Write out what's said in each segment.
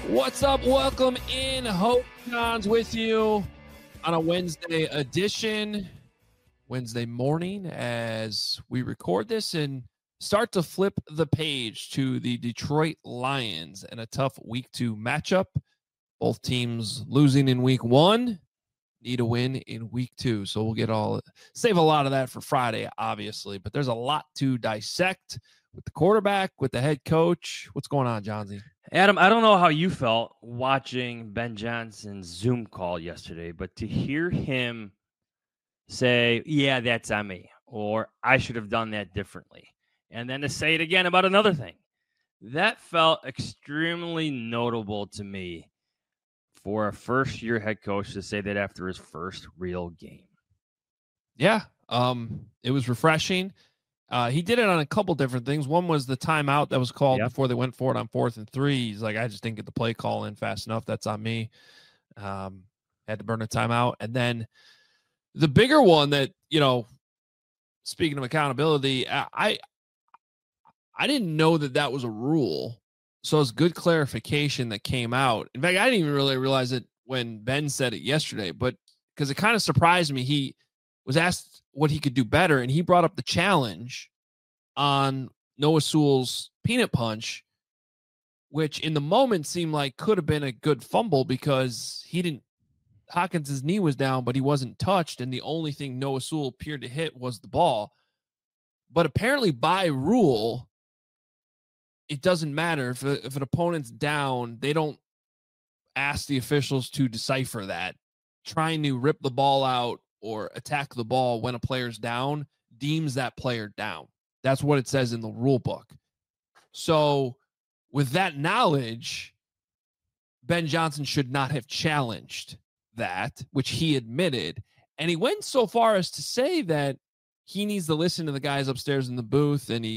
What's up? Welcome in. Hope John's with you on a Wednesday edition, Wednesday morning as we record this and start to flip the page to the Detroit Lions and a tough week 2 matchup. Both teams losing in week 1, need a win in week 2. So we'll save a lot of that for Friday, obviously, but there's a lot to dissect with the quarterback, with the head coach. What's going on, Johnsy? Adam, I don't know how you felt watching Ben Johnson's Zoom call yesterday, but to hear him say, yeah, that's on me, or I should have done that differently, and then to say it again about another thing, that felt extremely notable to me for a first-year head coach to say that after his first real game. Yeah, it was refreshing. He did it on a couple different things. One was the timeout that was called before they went for it on 4th and 3. He's like, I just didn't get the play call in fast enough. That's on me. Had to burn a timeout. And then the bigger one that, speaking of accountability, I didn't know that was a rule. So it's good clarification that came out. In fact, I didn't even really realize it when Ben said it yesterday, but because it kind of surprised me. He was asked what he could do better, and he brought up the challenge on Noah Sewell's peanut punch, which in the moment seemed like could have been a good fumble because Hawkins' knee was down, but he wasn't touched, and the only thing Noah Sewell appeared to hit was the ball. But apparently by rule, it doesn't matter. If an opponent's down, they don't ask the officials to decipher that. Trying to rip the ball out or attack the ball when a player's down deems that player down. That's what it says in the rule book. So with that knowledge, Ben Johnson should not have challenged that, which he admitted. And he went so far as to say that he needs to listen to the guys upstairs in the booth. And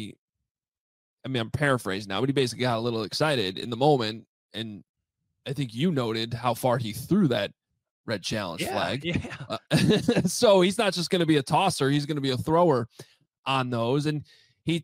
I'm paraphrasing now, but he basically got a little excited in the moment. And I think you noted how far he threw that red challenge flag. Yeah. So he's not just going to be a tosser. He's going to be a thrower on those. And you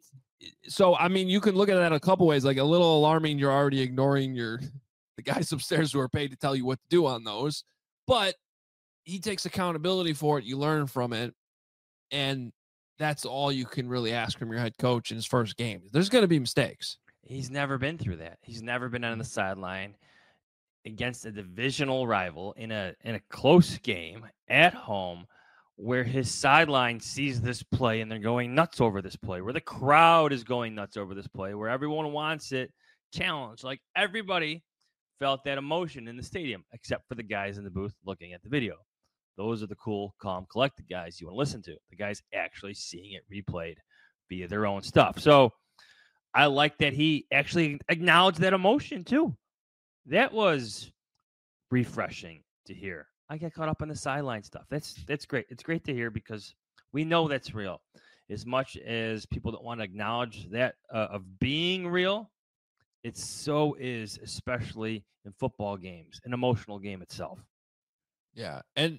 can look at that a couple ways, like a little alarming. You're already ignoring the guys upstairs who are paid to tell you what to do on those, but he takes accountability for it. You learn from it. And that's all you can really ask from your head coach in his first game. There's going to be mistakes. He's never been through that. He's never been on the sideline against a divisional rival in a close game at home where his sideline sees this play and they're going nuts over this play, where the crowd is going nuts over this play, where everyone wants it challenged. Like, everybody felt that emotion in the stadium, except for the guys in the booth looking at the video. Those are the cool, calm, collected guys you want to listen to. The guys actually seeing it replayed via their own stuff. So I like that he actually acknowledged that emotion too. That was refreshing to hear. I get caught up on the sideline stuff. That's great. It's great to hear because we know that's real. As much as people don't want to acknowledge that of being real, it so is, especially in football games, an emotional game itself. Yeah. And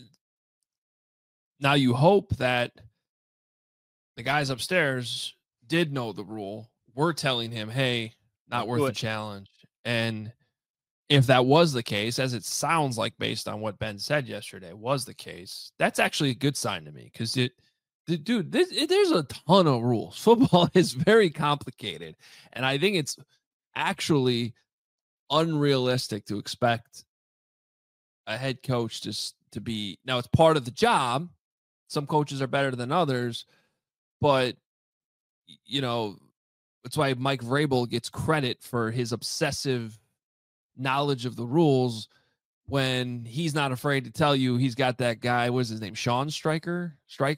now you hope that the guys upstairs did know the rule. We're telling him, hey, not worth the challenge. And if that was the case, as it sounds like based on what Ben said yesterday was the case, that's actually a good sign to me because there's a ton of rules. Football is very complicated, and I think it's actually unrealistic to expect a head coach to be. Now, it's part of the job. Some coaches are better than others, but that's why Mike Vrabel gets credit for his obsessive knowledge of the rules when he's not afraid to tell you he's got that guy. What's his name? Sean Stryker,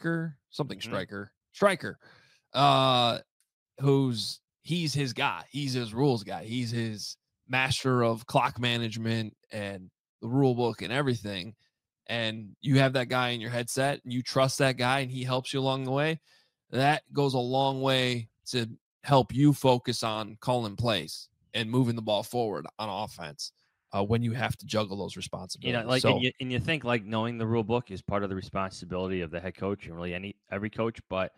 he's his guy. He's his rules guy. He's his master of clock management and the rule book and everything. And you have that guy in your headset and you trust that guy and he helps you along the way. That goes a long way to help you focus on calling plays and moving the ball forward on offense when you have to juggle those responsibilities. And you think like knowing the rule book is part of the responsibility of the head coach and really every coach. But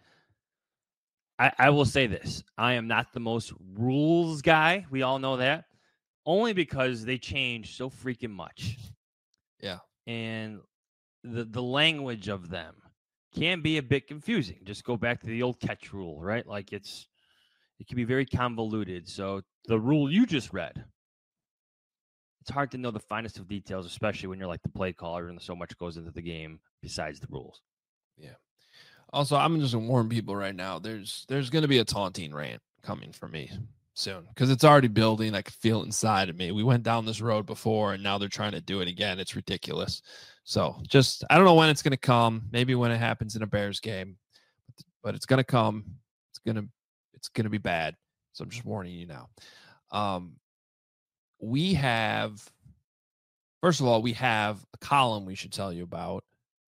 I will say this: I am not the most rules guy. We all know that. only because they change so freaking much. Yeah. And the language of them can be a bit confusing. Just go back to the old catch rule, right? Like it can be very convoluted. So the rule you just read, it's hard to know the finest of details, especially when you're like the play caller and so much goes into the game besides the rules. Yeah. Also, I'm just gonna warn people right now. There's gonna be a taunting rant coming from me soon because it's already building. I can feel it inside of me. We went down this road before, and now they're trying to do it again. It's ridiculous. So just I don't know when it's gonna come. Maybe when it happens in a Bears game, but it's gonna come. It's gonna be bad. So I'm just warning you now. We have, first of all, we have a column we should tell you about.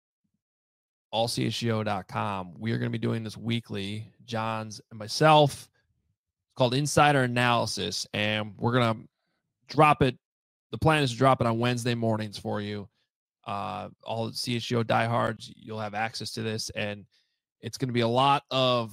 allchgo.com. We are going to be doing this weekly, Johns and myself. It's called Insider Analysis, and we're going to drop it. The plan is to drop it on Wednesday mornings for you. All the CHGO diehards, you'll have access to this, and it's going to be a lot of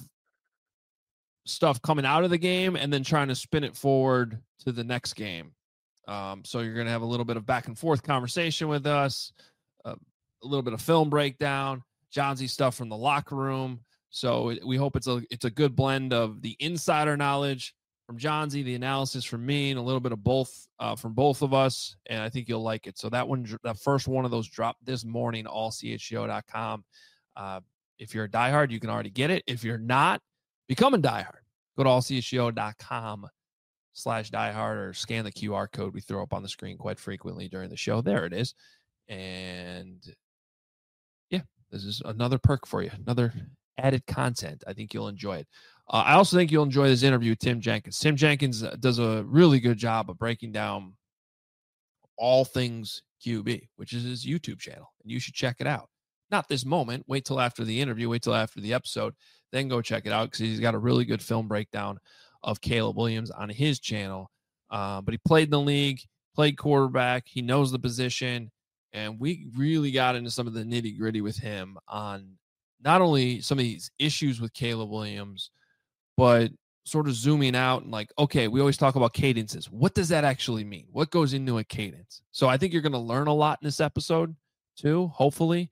stuff coming out of the game and then trying to spin it forward to the next game. So you're going to have a little bit of back and forth conversation with us, a little bit of film breakdown, Johnsy stuff from the locker room. So we hope it's a good blend of the insider knowledge from Johnsy, the analysis from me, and a little bit of both from both of us. And I think you'll like it. So that first one of those dropped this morning, allchgo.com. If you're a diehard, you can already get it. If you're not, become a diehard. Go to allchgo.com/diehard or scan the QR code we throw up on the screen quite frequently during the show. There it is. And yeah, this is another perk for you, another added content. I think you'll enjoy it. I also think you'll enjoy this interview with Tim Jenkins. Tim Jenkins does a really good job of breaking down all things QB, which is his YouTube channel, and you should check it out. Not this moment. Wait till after the interview. Wait till after the episode. Then go check it out because he's got a really good film breakdown of Caleb Williams on his channel. But he played in the league, played quarterback. He knows the position. And we really got into some of the nitty gritty with him on not only some of these issues with Caleb Williams, but sort of zooming out and like, okay, we always talk about cadences. What does that actually mean? What goes into a cadence? So I think you're going to learn a lot in this episode too, hopefully.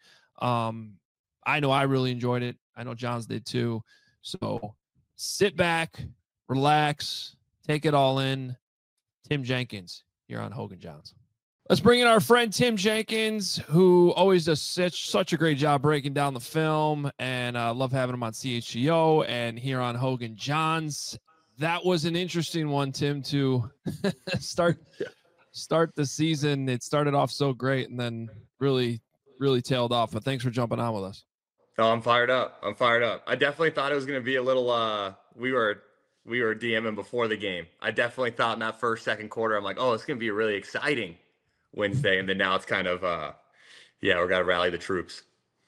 I know I really enjoyed it. I know Johns did too. So sit back, relax, take it all in. Tim Jenkins here on Hogan Johns. Let's bring in our friend Tim Jenkins, who always does such a great job breaking down the film, and I love having him on CHGO and here on Hogan Johns. That was an interesting one, Tim, to start the season. It started off so great and then really tailed off. But thanks for jumping on with us. Oh, I'm fired up. I definitely thought it was going to be a little. We were DMing before the game. I definitely thought in that second quarter, I'm like, oh, it's going to be really exciting Wednesday, and then now it's kind of we got to rally the troops.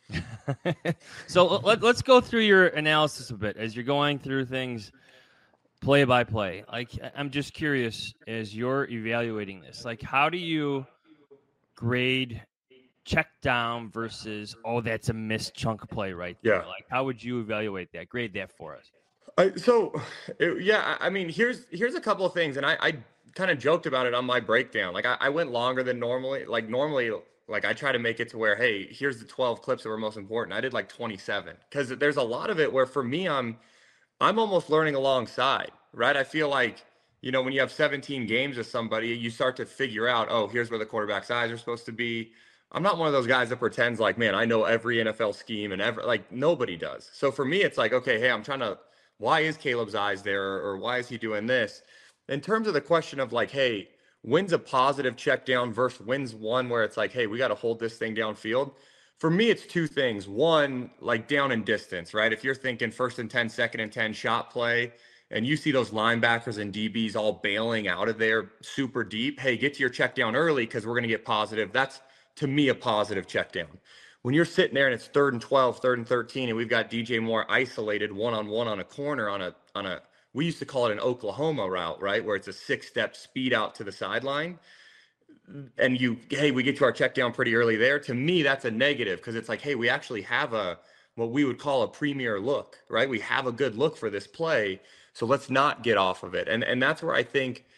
So let's go through your analysis a bit as you're going through things play by play. Like, I'm just curious, as you're evaluating this, like, how do you grade check down versus, oh, that's a missed chunk play right there? Yeah. Like, how would you evaluate that? Grade that for us. I mean, here's a couple of things, and I kind of joked about it on my breakdown. Like, I went longer than normally. Like I try to make it to where, hey, here's the 12 clips that were most important. I did like 27 because there's a lot of it where for me, I'm almost learning alongside, right? I feel like, when you have 17 games with somebody, you start to figure out, oh, here's where the quarterback's eyes are supposed to be. I'm not one of those guys that pretends like, man, I know every NFL scheme and nobody does. So for me, it's like, okay, hey, why is Caleb's eyes there, or why is he doing this? In terms of the question of like, hey, when's a positive check down versus when's one where it's like, hey, we got to hold this thing downfield. For me, it's two things. One, like down and distance, right? If you're thinking 1st and 10, 2nd and 10 shot play, and you see those linebackers and DBs all bailing out of there super deep, hey, get to your check down early because we're going to get positive. That's, to me, a positive check down. When you're sitting there and it's 3rd and 12, 3rd and 13, and we've got DJ Moore isolated one-on-one on a corner on a we used to call it an Oklahoma route, right? Where it's a 6-step speed out to the sideline. And we get to our check down pretty early there. To me, that's a negative because it's like, hey, we actually have what we would call a premier look, right? We have a good look for this play. So let's not get off of it. And that's where I think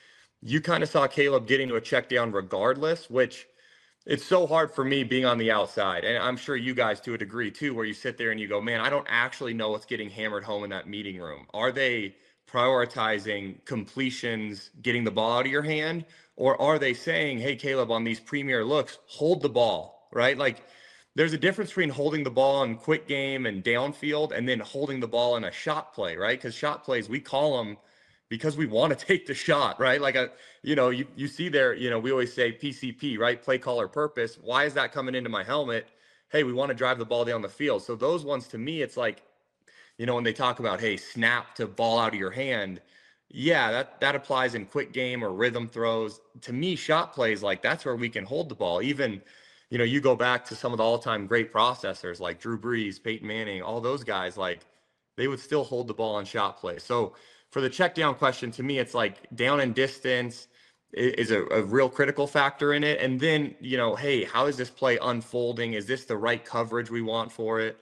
you kind of saw Caleb getting to a check down regardless, which it's so hard for me being on the outside. And I'm sure you guys to a degree too, where you sit there and you go, man, I don't actually know what's getting hammered home in that meeting room. Are they prioritizing completions, getting the ball out of your hand? Or are they saying, hey, Caleb, on these premier looks, hold the ball, right? Like there's a difference between holding the ball in quick game and downfield and then holding the ball in a shot play, right? Because shot plays, we call them because we want to take the shot, right? Like you see there, we always say PCP, right? Play, call, or purpose. Why is that coming into my helmet? Hey, we want to drive the ball down the field. So those ones to me, it's like, when they talk about, hey, snap to ball out of your hand. Yeah, that applies in quick game or rhythm throws. To me, shot plays, like that's where we can hold the ball. Even, you go back to some of the all-time great processors like Drew Brees, Peyton Manning, all those guys, like they would still hold the ball on shot play. So for the check down question, to me, it's like down and distance is a real critical factor in it. And then, hey, how is this play unfolding? Is this the right coverage we want for it?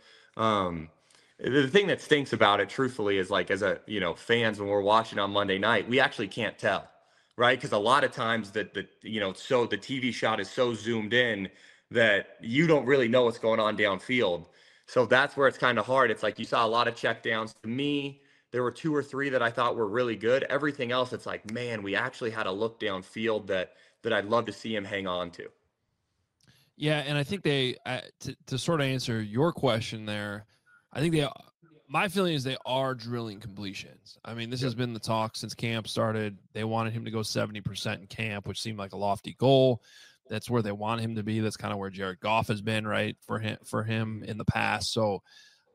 The thing that stinks about it, truthfully, is like as fans, when we're watching on Monday night, we actually can't tell, right? Because a lot of times so the TV shot is so zoomed in that you don't really know what's going on downfield. So that's where it's kind of hard. It's like you saw a lot of check downs. To me, there were 2 or 3 that I thought were really good. Everything else, it's like, man, we actually had a look downfield that I'd love to see him hang on to. Yeah, and I think to sort of answer your question there, I think my feeling is they are drilling completions. I mean, this has been the talk since camp started. They wanted him to go 70% in camp, which seemed like a lofty goal. That's where they want him to be. That's kind of where Jared Goff has been, right, for him in the past. So,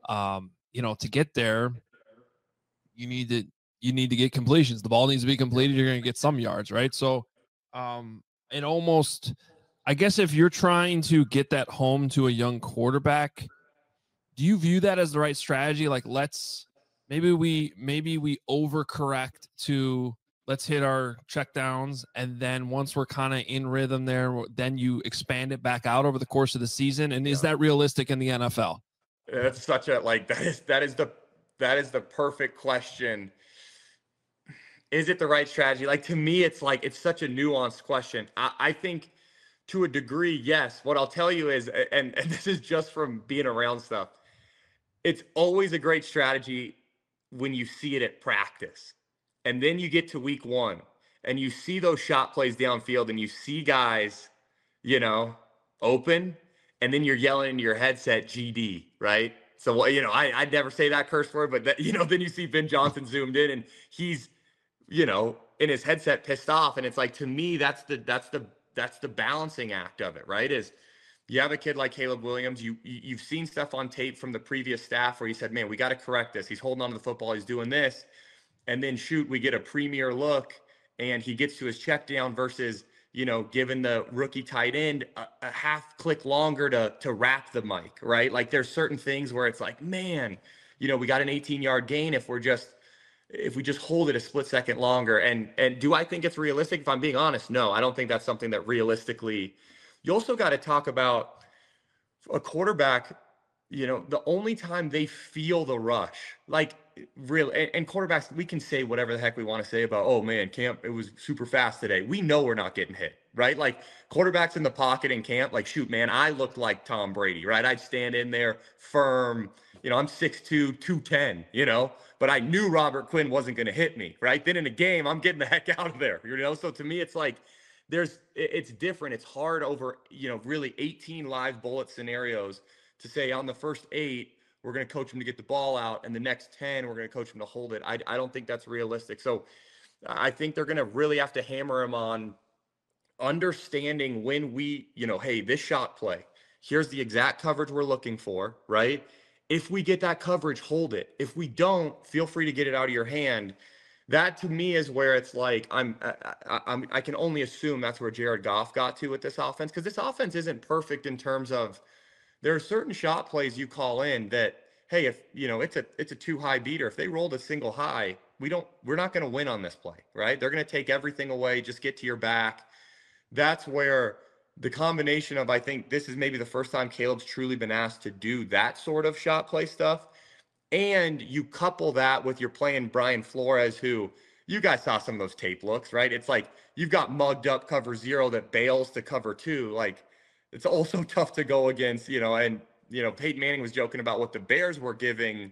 to get there, you need to get completions. The ball needs to be completed. You're going to get some yards, right? So, it almost, I guess, if you're trying to get that home to a young quarterback, do you view that as the right strategy? Like, maybe we overcorrect to let's hit our check downs, and then once we're kind of in rhythm there, then you expand it back out over the course of the season. And is that realistic in the NFL? That's such a that is the perfect question. Is it the right strategy? Like, to me, it's like, it's such a nuanced question. I think to a degree, yes. What I'll tell you is, and this is just from being around stuff, it's always a great strategy when you see it at practice. And then you get to week 1 and you see those shot plays downfield and you see guys, open, and then you're yelling into your headset, GD, right? So, I'd never say that curse word, but that, then you see Ben Johnson zoomed in and he's, in his headset pissed off. And it's like, to me, that's the balancing act of it, right? Is you have a kid like Caleb Williams, you've seen stuff on tape from the previous staff where he said, man, we got to correct this. He's holding on to the football. He's doing this. And then we get a premier look and he gets to his check down versus, giving the rookie tight end a half click longer to wrap the mic, right? Like there's certain things where it's like, man, we got an 18-yard gain if we just hold it a split second longer. And do I think it's realistic? If I'm being honest, no, I don't think that's something that realistically. You also got to talk about a quarterback, the only time they feel the rush, like really, and quarterbacks, we can say whatever the heck we want to say about, oh man, camp, it was super fast today. We know we're not getting hit, right? Like quarterbacks in the pocket in camp, like, shoot, man, I looked like Tom Brady, right? I'd stand in there firm, I'm 6'2", 210, but I knew Robert Quinn wasn't going to hit me, right? Then in a game, I'm getting the heck out of there, So to me, it's like, it's different. It's hard over, really 18 live bullet scenarios to say on the first 8, we're going to coach him to get the ball out, and the next 10, we're going to coach him to hold it. I don't think that's realistic. So I think they're going to really have to hammer him on understanding when we, hey, this shot play, here's the exact coverage we're looking for, right? If we get that coverage, hold it. If we don't, feel free to get it out of your hand. That to me is where it's like I can only assume that's where Jared Goff got to with this offense, because this offense isn't perfect in terms of there are certain shot plays you call in that, hey, if it's a too high beater, if they rolled a single high, we're not going to win on this play, right? They're going to take everything away, just get to your back. That's where the combination of, I think this is maybe the first time Caleb's truly been asked to do that sort of shot play stuff. And you couple that with you're playing Brian Flores, who you guys saw some of those tape looks, right? It's like you've got mugged up cover 0 that bails to cover 2. Like, it's also tough to go against, and, Peyton Manning was joking about what the Bears were giving,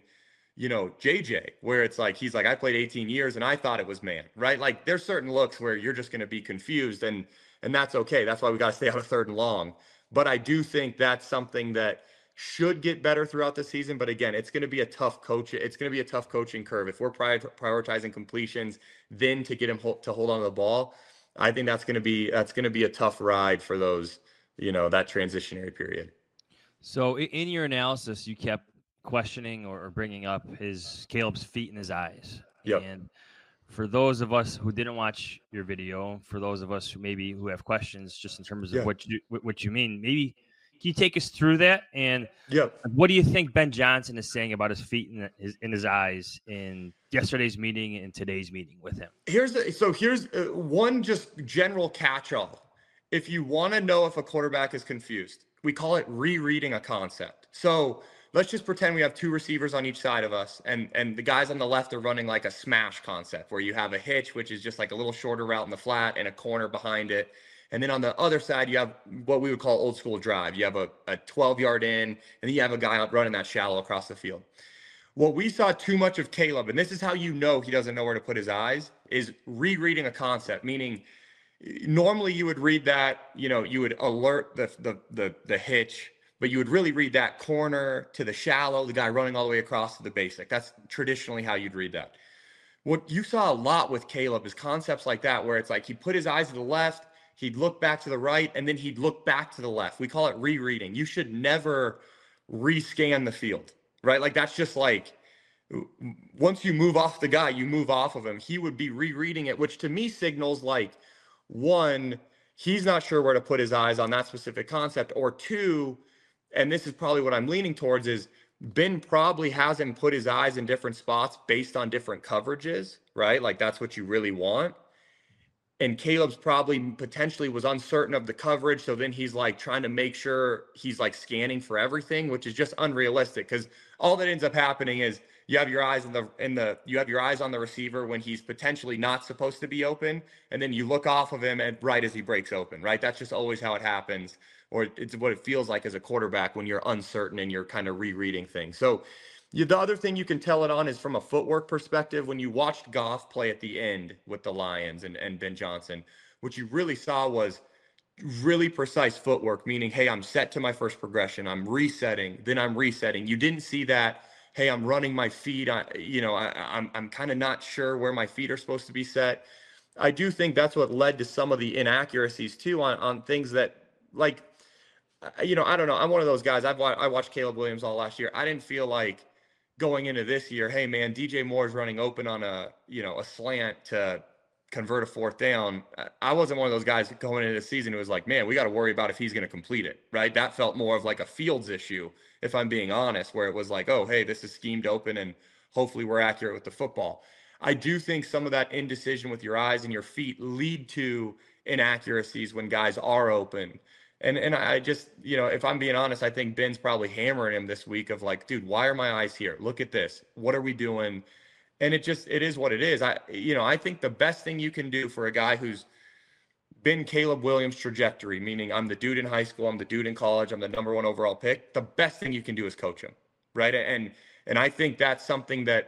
JJ, where it's like, he's like, I played 18 years and I thought it was man, right? Like, there's certain looks where you're just going to be confused, and that's okay. That's why we got to stay out of 3rd and long. But I do think that's something that should get better throughout the season. But again, it's going to be a tough coach. It's going to be a tough coaching curve. If we're prioritizing completions, then to get him to hold on to the ball, I think that's going to be a tough ride for those, that transitionary period. So in your analysis, you kept questioning or bringing up Caleb's feet and his eyes. Yep. And for those of us who didn't watch your video, for those of us who have questions just in terms of what you mean, maybe can you take us through that? And what do you think Ben Johnson is saying about his feet and his eyes in yesterday's meeting and today's meeting with him? Here's one just general catch-all. If you want to know if a quarterback is confused, we call it rereading a concept. So let's just pretend we have 2 receivers on each side of us, and the guys on the left are running like a smash concept where you have a hitch, which is just like a little shorter route in the flat and a corner behind it. And then on the other side, you have what we would call old school drive. You have a 12-yard in, and then you have a guy running that shallow across the field. What we saw too much of Caleb, and this is how you know he doesn't know where to put his eyes, is rereading a concept, meaning normally you would read that, you would alert the hitch, but you would really read that corner to the shallow, the guy running all the way across to the basic. That's traditionally how you'd read that. What you saw a lot with Caleb is concepts like that, where it's like he put his eyes to the left, he'd look back to the right, and then he'd look back to the left. We call it rereading. You should never rescan the field, right? Like, that's just like, once you move off the guy, you move off of him. He would be rereading it, which to me signals like, 1, he's not sure where to put his eyes on that specific concept, or 2, and this is probably what I'm leaning towards, is Ben probably hasn't put his eyes in different spots based on different coverages, right? Like, that's what you really want. And Caleb's probably potentially was uncertain of the coverage. So then he's like trying to make sure he's like scanning for everything, which is just unrealistic, because all that ends up happening is you have your eyes you have your eyes on the receiver when he's potentially not supposed to be open. And then you look off of him right as he breaks open, right? That's just always how it happens, or it's what it feels like as a quarterback when you're uncertain and you're kind of rereading things. So the other thing you can tell it on is from a footwork perspective. When you watched Goff play at the end with the Lions and Ben Johnson, what you really saw was really precise footwork, meaning, hey, I'm set to my first progression, I'm resetting, then I'm resetting. You didn't see that, hey, I'm running my feet, I'm kind of not sure where my feet are supposed to be set. I do think that's what led to some of the inaccuracies too on things that, like, I don't know. I'm one of those guys. I watched Caleb Williams all last year. I didn't feel like going into this year, hey man, DJ Moore's running open on a slant to convert a 4th down. I wasn't one of those guys going into the season who was like, man, we got to worry about if he's going to complete it, right? That felt more of like a Fields issue, if I'm being honest, where it was like, oh, hey, this is schemed open and hopefully we're accurate with the football. I do think some of that indecision with your eyes and your feet lead to inaccuracies when guys are open. And I just, if I'm being honest, I think Ben's probably hammering him this week of like, dude, why are my eyes here? Look at this. What are we doing? And it is what it is. I think the best thing you can do for a guy who's been Caleb Williams' trajectory, meaning I'm the dude in high school, I'm the dude in college, I'm the number 1 overall pick, the best thing you can do is coach him, right? And I think that's something that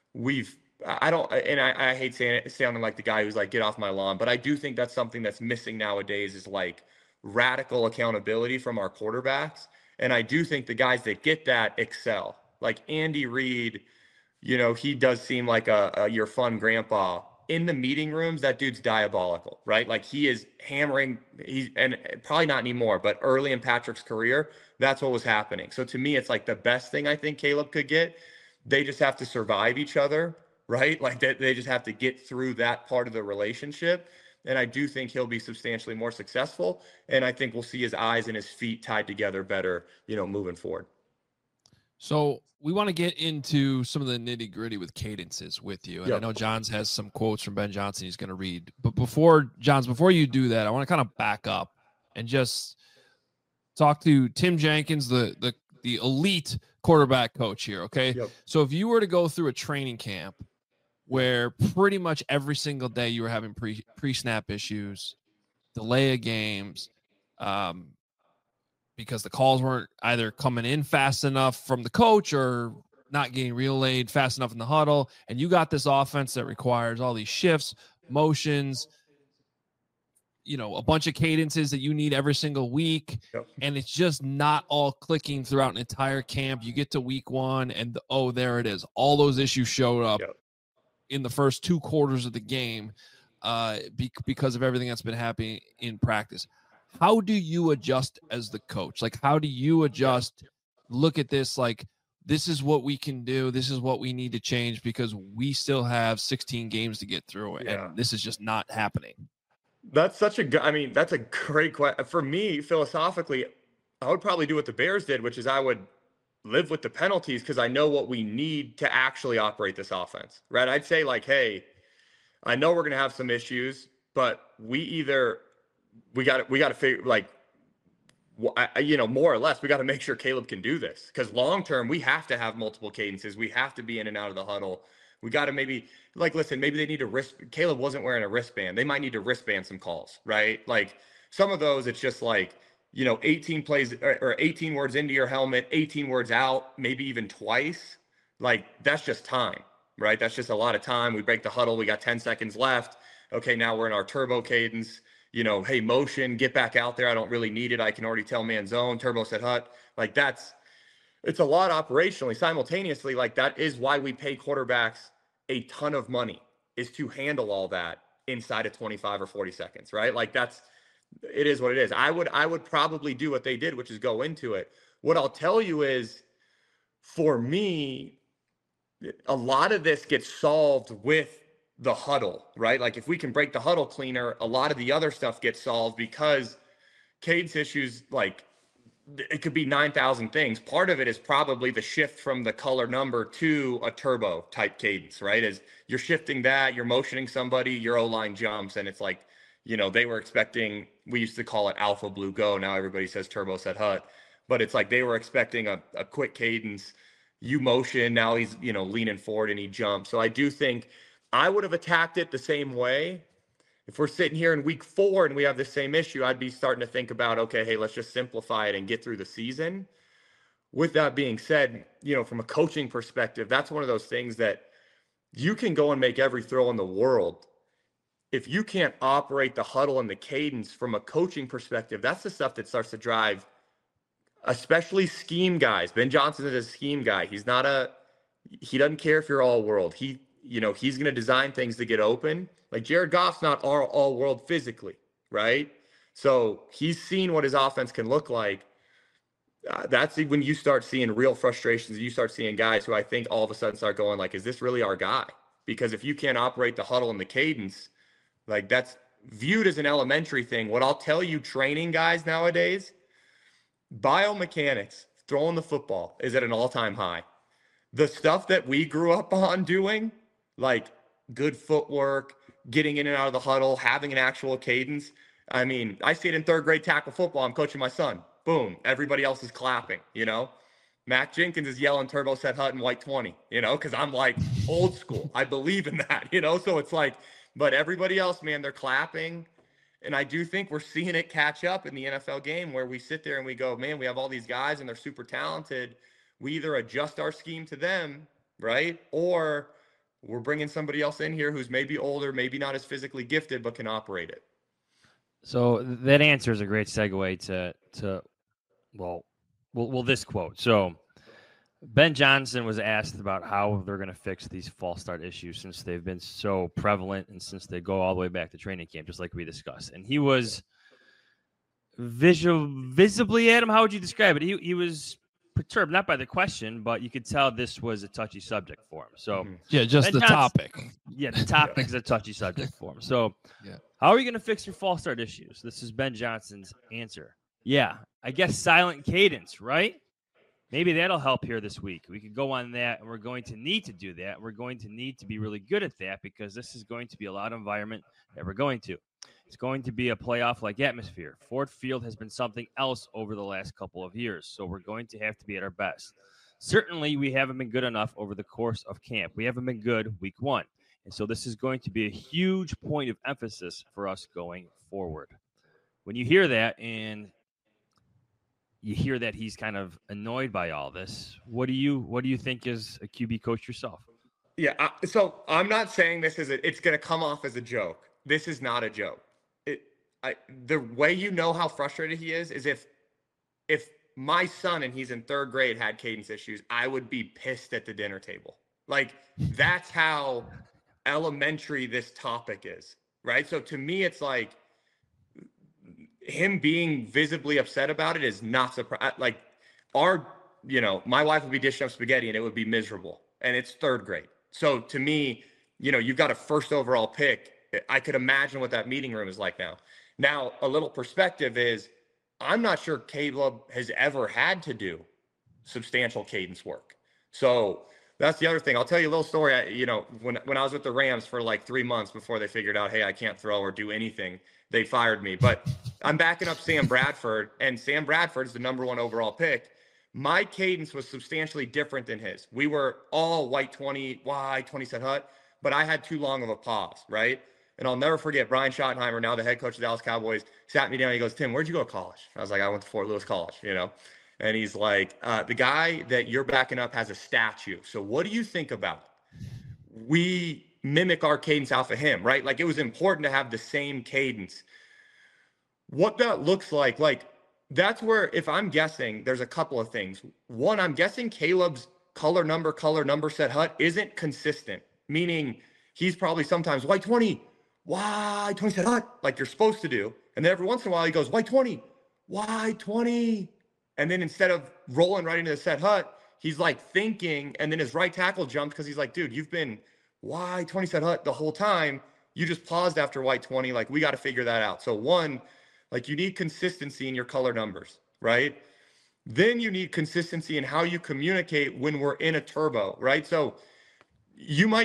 I hate sounding like the guy who's like, get off my lawn, but I do think that's something that's missing nowadays, is like radical accountability from our quarterbacks. And I do think the guys that get that excel, like Andy Reid, he does seem like your fun grandpa. In the meeting rooms, that dude's diabolical, right? Like, he is hammering, and probably not anymore, but early in Patrick's career, that's what was happening. So to me, it's like the best thing I think Caleb could get. They just have to survive each other, right? Like, they just have to get through that part of the relationship. And I do think he'll be substantially more successful. And I think we'll see his eyes and his feet tied together better, moving forward. So we want to get into some of the nitty gritty with cadences with you. And I know Johns has some quotes from Ben Johnson he's going to read. But before you do that, I want to kind of back up and just talk to Tim Jenkins, the elite quarterback coach here. Okay. Yep. So if you were to go through a training camp, where pretty much every single day you were having pre-snap issues, delay of games, because the calls weren't either coming in fast enough from the coach or not getting relayed fast enough in the huddle. And you got this offense that requires all these shifts, motions, a bunch of cadences that you need every single week. Yep. And it's just not all clicking throughout an entire camp. You get to week 1 and there it is. All those issues showed up in the first 2 quarters of the game because of everything that's been happening in practice. How do you adjust as the coach? Like, how do you adjust, look at this, like, this is what we can do. This is what we need to change because we still have 16 games to get through. And this is just not happening. That's that's a great question. For me, philosophically, I would probably do what the Bears did, which is I would live with the penalties because I know what we need to actually operate this offense, right? I'd say, like, hey, I know we're going to have some issues, but we got to figure, like, more or less, we got to make sure Caleb can do this because long term, we have to have multiple cadences. We have to be in and out of the huddle. We got to maybe, like, listen, maybe they need to Caleb wasn't wearing a wristband. They might need to wristband some calls, right? Like, some of those, it's just like, 18 plays or 18 words into your helmet, 18 words out, maybe even twice. Like, that's just time, right? That's just a lot of time. We break the huddle. We got 10 seconds left. Okay, now we're in our turbo cadence. Hey, motion, get back out there. I don't really need it. I can already tell man zone, turbo set hut. Like, it's a lot operationally. Simultaneously, like, that is why we pay quarterbacks a ton of money, is to handle all that inside of 25 or 40 seconds, right? Like, it is what it is. I would probably do what they did, which is go into it. What I'll tell you is, for me, a lot of this gets solved with the huddle, right? Like, if we can break the huddle cleaner, a lot of the other stuff gets solved because cadence issues, like, it could be 9,000 things. Part of it is probably the shift from the color number to a turbo type cadence, right? As you're shifting that, you're motioning somebody, your O-line jumps, and it's like, they were expecting, we used to call it alpha blue go. Now everybody says turbo set hut, but it's like they were expecting a quick cadence. You motion, now he's, leaning forward and he jumps. So I do think I would have attacked it the same way. If we're sitting here in week 4 and we have the same issue, I'd be starting to think about, okay, hey, let's just simplify it and get through the season. With that being said, from a coaching perspective, that's one of those things that you can go and make every throw in the world. If you can't operate the huddle and the cadence from a coaching perspective, that's the stuff that starts to drive, especially scheme guys. Ben Johnson is a scheme guy. He doesn't care if you're all world. He's going to design things to get open. Like, Jared Goff's not all world physically, right? So he's seen what his offense can look like. That's when you start seeing real frustrations. You start seeing guys who I think all of a sudden start going, like, is this really our guy? Because if you can't operate the huddle and the cadence, like, that's viewed as an elementary thing. What I'll tell you, training guys nowadays, biomechanics, throwing the football, is at an all-time high. The stuff that we grew up on doing, like good footwork, getting in and out of the huddle, having an actual cadence. I mean, I see it in 3rd grade tackle football. I'm coaching my son. Boom. Everybody else is clapping, Mac Jenkins is yelling turbo set hut and white 20, because I'm like old school. I believe in that, So it's like, but everybody else, man, they're clapping. And I do think we're seeing it catch up in the NFL game where we sit there and we go, man, we have all these guys and they're super talented. We either adjust our scheme to them, right? Or we're bringing somebody else in here who's maybe older, maybe not as physically gifted, but can operate it. So that answer is a great segue to this quote. So Ben Johnson was asked about how they're going to fix these false start issues since they've been so prevalent and since they go all the way back to training camp, just like we discussed. And he was visibly, Adam, how would you describe it? He was perturbed, not by the question, but you could tell this was a touchy subject for him. So yeah, just Ben the Johnson, topic. Yeah, the topic is a touchy subject for him. So how are you going to fix your false start issues? This is Ben Johnson's answer. Yeah, I guess silent cadence, right? Maybe that'll help here this week. We could go on that, and we're going to need to do that. We're going to need to be really good at that because this is going to be a loud environment that we're going to. It's going to be a playoff-like atmosphere. Ford Field has been something else over the last couple of years, so we're going to have to be at our best. Certainly, we haven't been good enough over the course of camp. We haven't been good week 1. And so this is going to be a huge point of emphasis for us going forward. When you hear that and you hear that he's kind of annoyed by all this, what do you think as a QB coach yourself? Yeah, so I'm not saying this is it's going to come off as a joke. This is not a joke. The way you know how frustrated he is if my son, and he's in 3rd grade, had cadence issues, I would be pissed at the dinner table. Like, that's how elementary this topic is, right? So to me, it's like him being visibly upset about it is not surprising. Like, my wife would be dishing up spaghetti and it would be miserable, and it's 3rd grade. So to me, you've got a 1st overall pick. I could imagine what that meeting room is like now. Now, a little perspective is, I'm not sure Caleb has ever had to do substantial cadence work. So that's the other thing. I'll tell you a little story. When I was with the Rams for like 3 months before they figured out, hey, I can't throw or do anything, they fired me. But I'm backing up Sam Bradford, and Sam Bradford is the number 1 overall pick. My cadence was substantially different than his. We were all white 20, wide 20 set hut, but I had too long of a pause, right? And I'll never forget, Brian Schottenheimer, now the head coach of the Dallas Cowboys, sat me down. He goes, Tim, where'd you go to college? I was like, I went to Fort Lewis College, And he's like, the guy that you're backing up has a statue. So what do you think about it? We mimic our cadence off of him, right? Like, it was important to have the same cadence. What that looks like, that's where, if I'm guessing, there's a couple of things. One, I'm guessing Caleb's color number set hut isn't consistent, meaning he's probably sometimes white 20, wide 20 set hut, like you're supposed to do. And then every once in a while he goes white 20, wide 20. And then instead of rolling right into the set hut, he's like thinking, and then his right tackle jumps because he's like, dude, you've been wide 20 set hut the whole time. You just paused after white 20. Like, we got to figure that out. So one, like, you need consistency in your color numbers, right? Then you need consistency in how you communicate when we're in a turbo, right? So you might,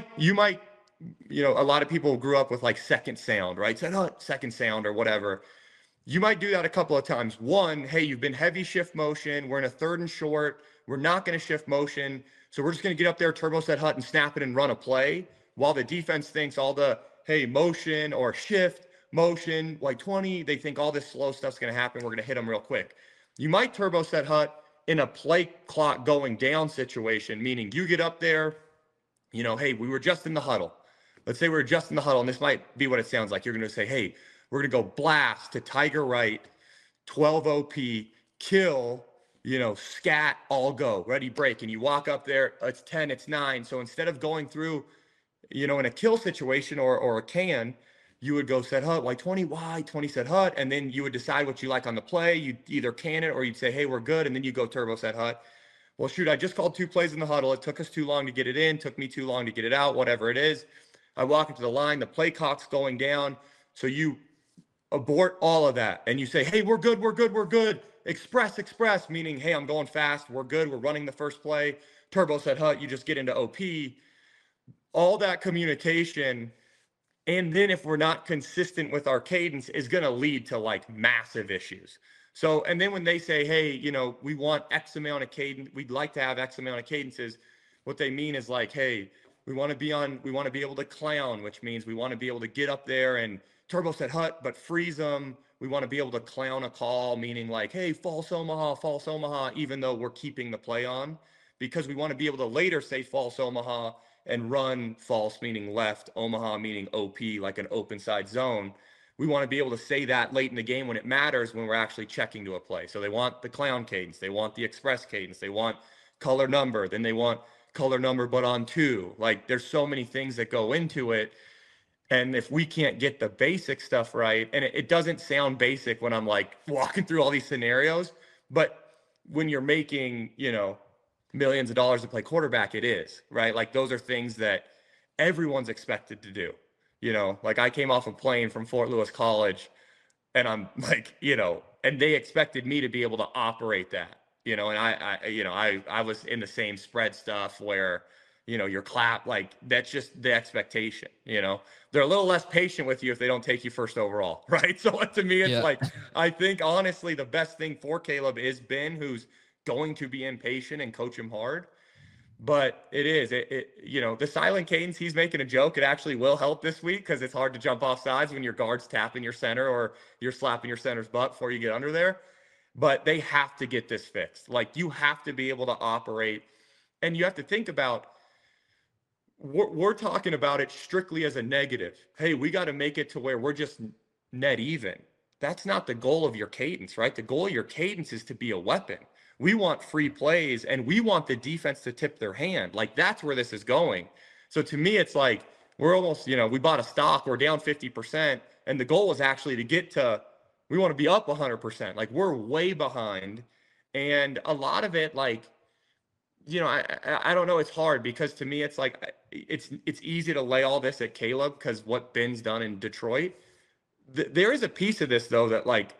a lot of people grew up with like second sound, right? Second sound or whatever. You might do that a couple of times. One, hey, you've been heavy shift motion. We're in a 3rd and short. We're not going to shift motion. So we're just going to get up there, turbo set hut, and snap it and run a play while the defense thinks all the, hey, motion or shift, motion, like 20, they think all this slow stuff's going to happen. We're going to hit them real quick. You might turbo set hut in a play clock going down situation, meaning you get up there, hey, we were just in the huddle. Let's say we're just in the huddle, and this might be what it sounds like. You're going to say, hey, we're going to go blast to tiger right, 12 OP, kill, scat, all go, ready, break. And you walk up there, it's 10, it's 9. So instead of going through, in a kill situation or a can, you would go set hut, white 20, wide 20 set hut, and then you would decide what you like on the play. You'd either can it or you'd say, hey, we're good, and then you go turbo set hut. Well, shoot, I just called 2 plays in the huddle. It took us too long to get it in, took me too long to get it out, whatever it is. I walk into the line, the play clock's going down, so you abort all of that, and you say, hey, we're good, we're good, we're good. Express, meaning, hey, I'm going fast, we're good, we're running the first play. Turbo set hut, you just get into OP. All that communication. And then if we're not consistent with our cadence, is going to lead to like massive issues. So, and then when they say, hey, we want X amount of cadence, we'd like to have X amount of cadences, what they mean is like, hey, we want to be able to clown, which means we want to be able to get up there and turbo set hut, but freeze them. We want to be able to clown a call, meaning like, hey, false Omaha, even though we're keeping the play on, because we want to be able to later say false Omaha and run false, meaning left, Omaha, meaning OP, like an open side zone. We want to be able to say that late in the game when it matters, when we're actually checking to a play. So they want the clown cadence. They want the express cadence. They want color number. Then they want color number, but on 2. Like, there's so many things that go into it. And if we can't get the basic stuff right, and it doesn't sound basic when I'm like walking through all these scenarios, but when you're making, millions of dollars to play quarterback, it is, right? Like, those are things that everyone's expected to do. Like, I came off a plane from Fort Lewis College, and I'm like, and they expected me to be able to operate that, and I was in the same spread stuff where, your clap, like, that's just the expectation. They're a little less patient with you if they don't take you 1st overall, right? So to me, it's like, I think honestly, the best thing for Caleb is Ben, who's going to be impatient and coach him hard. But it is, the silent cadence, he's making a joke. It actually will help this week because it's hard to jump off sides when your guard's tapping your center or you're slapping your center's butt before you get under there. But they have to get this fixed. Like, you have to be able to operate, and you have to think about, we're talking about it strictly as a negative. Hey, we got to make it to where we're just net even. That's not the goal of your cadence, right? The goal of your cadence is to be a weapon. We want free plays, and we want the defense to tip their hand. Like, that's where this is going. So to me, it's like we're almost, we bought a stock, we're down 50%, and the goal was actually to get to, we want to be up 100%. Like, we're way behind. And a lot of it, like, I don't know. It's hard because to me, it's like, it's easy to lay all this at Caleb because what Ben's done in Detroit. There is a piece of this, though, that, like,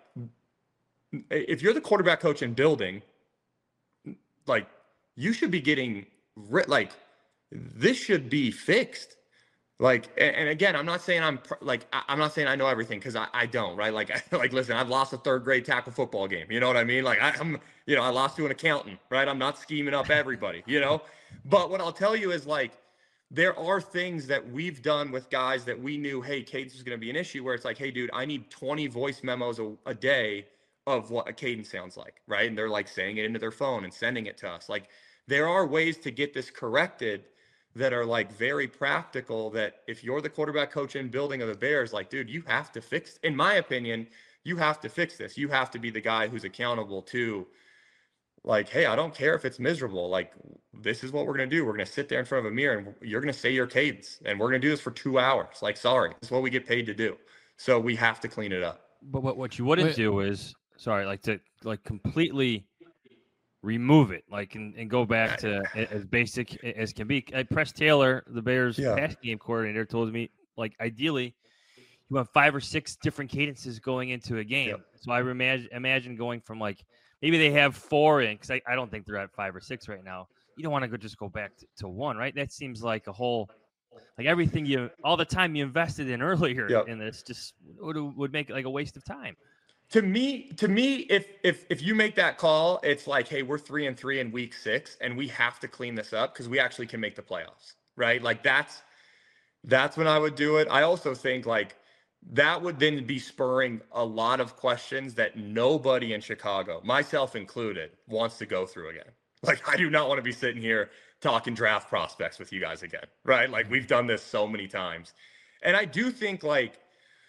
if you're the quarterback coach in building, like, you should be getting, like, this should be fixed. Like, and again, I'm not saying I'm not saying I know everything, because I don't, right? Like, listen, I've lost a third grade tackle football game. You know what I mean? Like, I lost to an accountant, right? I'm not scheming up everybody, But what I'll tell you is, like, there are things that we've done with guys that we knew, hey, cadence was going to be an issue, where it's like, hey, dude, I need 20 voice memos a day of what a cadence sounds like, right? And they're, like, saying it into their phone and sending it to us. Like, there are ways to get this corrected that are, like, very practical, that if you're the quarterback coach in building of the Bears, like, dude, you have to fix, in my opinion, you have to fix this. You have to be the guy who's accountable to, like, hey, I don't care if it's miserable. Like, this is what we're going to do. We're going to sit there in front of a mirror and you're going to say your cadence, and we're going to do this for 2 hours. Like, sorry, this is what we get paid to do. So we have to clean it up. But what you wouldn't do is, to completely remove it, like, and go back to as basic as can be. Press Taylor, the Bears pass game coordinator, told me, like, ideally you want 5 or 6 different cadences going into a game. Yep. So I imagine going from, like, maybe they have 4 in, because I don't think they're at 5 or 6 right now. You don't want to just go back to 1, right? That seems like a whole, like, everything all the time you invested in earlier in this just would make it like a waste of time. To me, if you make that call, it's like, hey, we're 3-3 in week 6, and we have to clean this up because we actually can make the playoffs, right? Like, that's when I would do it. I also think, like, that would then be spurring a lot of questions that nobody in Chicago, myself included, wants to go through again. Like, I do not want to be sitting here talking draft prospects with you guys again, right? Like, we've done this so many times. And I do think, like,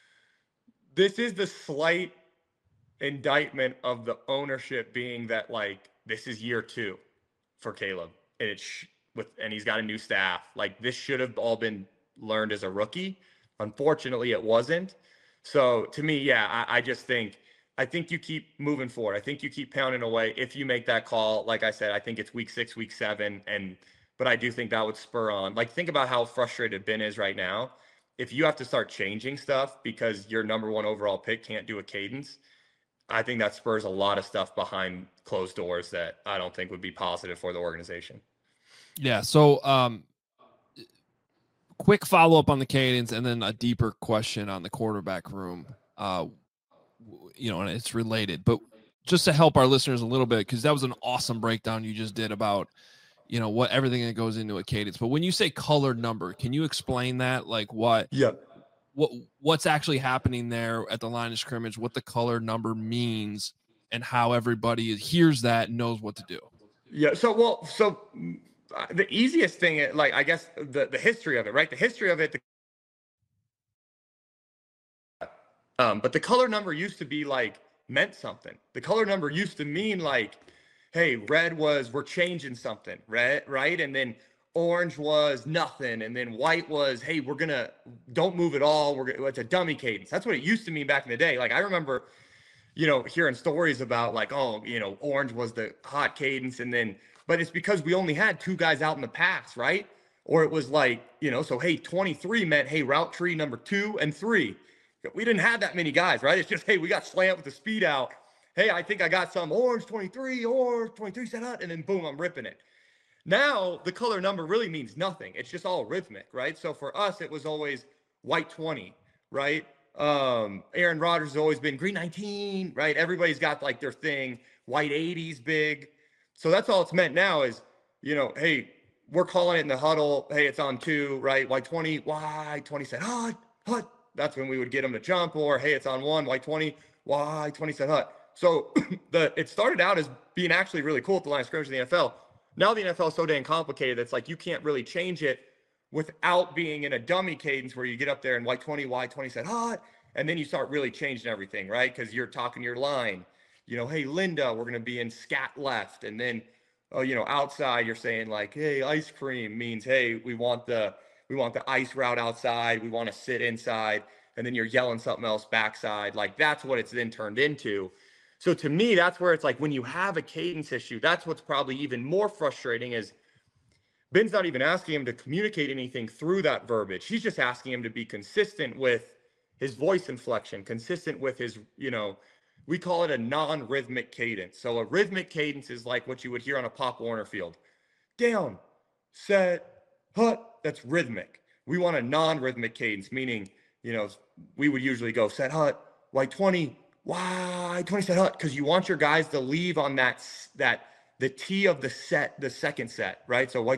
this is the slight indictment of the ownership being that, like, this is year 2 for Caleb, and and he's got a new staff. Like, this should have all been learned as a rookie. Unfortunately, it wasn't. So to me, I just think, you keep moving forward. I think you keep pounding away. If you make that call, like I said, I think it's week 6, week 7, but I do think that would spur on. Like, think about how frustrated Ben is right now. If you have to start changing stuff because your number 1 overall pick can't do a cadence, I think that spurs a lot of stuff behind closed doors that I don't think would be positive for the organization. Yeah. So, quick follow-up on the cadence, and then a deeper question on the quarterback room. And it's related, but just to help our listeners a little bit, because that was an awesome breakdown you just did about, what everything that goes into a cadence. But when you say colored number, can you explain that? Like, what's actually happening there at the line of scrimmage, what the color number means, and how everybody hears that and knows what to do? Yeah. So the easiest thing, like, I guess the history of it, right? The history of it. But the color number used to be, like, meant something. The color number used to mean, like, hey, red was, we're changing something, red, right? And then orange was nothing. And then white was, hey, don't move at all. It's a dummy cadence. That's what it used to mean back in the day. Like, I remember, hearing stories about, like, orange was the hot cadence. But it's because we only had 2 guys out in the pass, right? Or it was like, so, hey, 23 meant, hey, route tree number 2 and 3. We didn't have that many guys, right? It's just, hey, we got slant with the speed out. Hey, I think I got some orange 23 set out, and then boom, I'm ripping it. Now, the color number really means nothing. It's just all rhythmic, right? So for us, it was always white 20, right? Aaron Rodgers has always been green 19, right? Everybody's got, like, their thing. White 80's big. So that's all it's meant now is, hey, we're calling it in the huddle. Hey, it's on 2, right? Y20, Y20 said hut, hut. That's when we would get them to jump. Or hey, it's on 1, Y20, Y20 said hut. So it started out as being actually really cool at the line of scrimmage in the NFL. Now the NFL is so dang complicated. It's like you can't really change it without being in a dummy cadence where you get up there and Y20 said hut. And then you start really changing everything, right? Because you're talking your line. Hey, Linda, we're going to be in scat left. And then, outside, you're saying like, hey, ice cream means, hey, we want the ice route outside. We want to sit inside. And then you're yelling something else backside. Like, that's what it's then turned into. So to me, that's where it's like when you have a cadence issue, that's what's probably even more frustrating is Ben's not even asking him to communicate anything through that verbiage. He's just asking him to be consistent with his voice inflection, consistent with his, we call it a non-rhythmic cadence. So a rhythmic cadence is like what you would hear on a Pop Warner field. Down, set, hut, that's rhythmic. We want a non-rhythmic cadence, meaning, we would usually go set hut, Y20, Y20 set hut, because you want your guys to leave on that the T of the set, the second set, right? So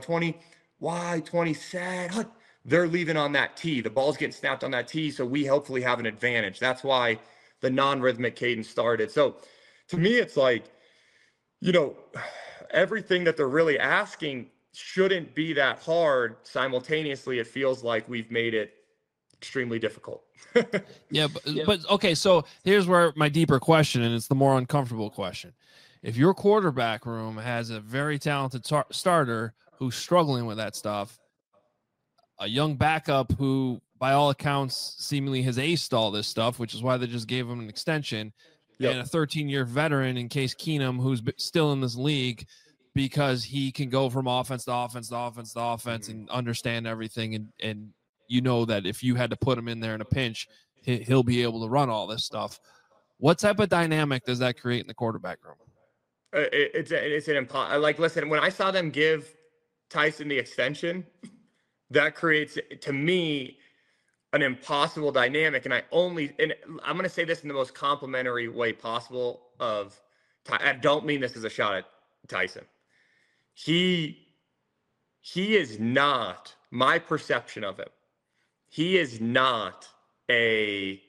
Y20 set hut. They're leaving on that T. The ball's getting snapped on that T, so we hopefully have an advantage. That's why the non-rhythmic cadence started. So to me, it's like, everything that they're really asking shouldn't be that hard. Simultaneously, it feels like we've made it extremely difficult. But okay, so here's where my deeper question, and it's the more uncomfortable question. If your quarterback room has a very talented starter who's struggling with that stuff, a young backup who, by all accounts, seemingly has aced all this stuff, which is why they just gave him an extension, and a 13-year veteran in Case Keenum, who's still in this league because he can go from offense to offense to offense to offense and understand everything. And that if you had to put him in there in a pinch, he'll be able to run all this stuff. What type of dynamic does that create in the quarterback room? It's an like, listen, when I saw them give Tyson the extension, that creates, to me, an impossible dynamic. And I'm going to say this in the most complimentary way possible I don't mean this as a shot at Tyson. He is not, my perception of him, he is not a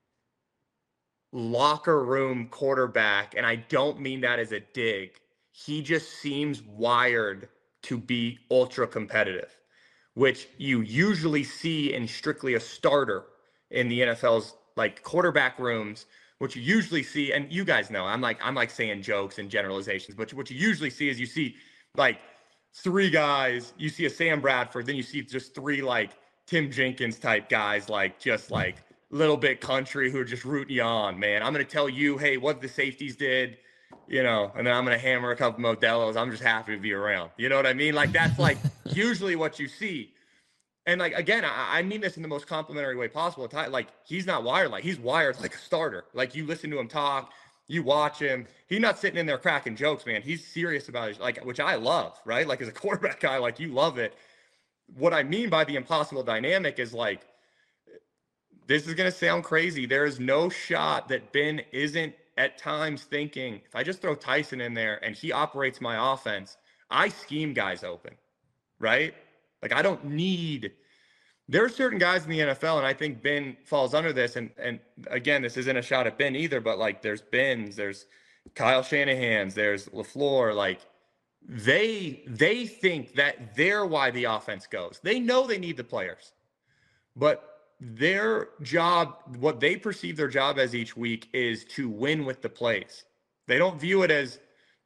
locker room quarterback. And I don't mean that as a dig. He just seems wired to be ultra competitive, which you usually see in strictly a starter in the NFL's like quarterback rooms, which you usually see, and you guys know, I'm like saying jokes and generalizations, but what you usually see is you see like 3 guys, you see a Sam Bradford, then you see just 3 like Tim Jenkins type guys, like just like little bit country who are just rooting you on, man. I'm going to tell you, hey, what the safeties did, and then I'm going to hammer a couple Modelos. I'm just happy to be around. You know what I mean? Like, that's like usually what you see. And like, again, I mean this in the most complimentary way possible. Like, he's not wired like, he's wired like a starter. Like, you listen to him talk, you watch him. He's not sitting in there cracking jokes, man. He's serious about it, like, which I love, right? Like, as a quarterback guy, like, you love it. What I mean by the impossible dynamic is like, this is going to sound crazy. There is no shot that Ben isn't at times thinking, if I just throw Tyson in there and he operates my offense, I scheme guys open, right? Like, I don't need – there are certain guys in the NFL, and I think Ben falls under this. And again, this isn't a shot at Ben either, but, like, there's Ben's, there's Kyle Shanahan's, there's LaFleur. Like, they think that they're why the offense goes. They know they need the players. But their job, what they perceive their job as each week is to win with the plays. They don't view it as,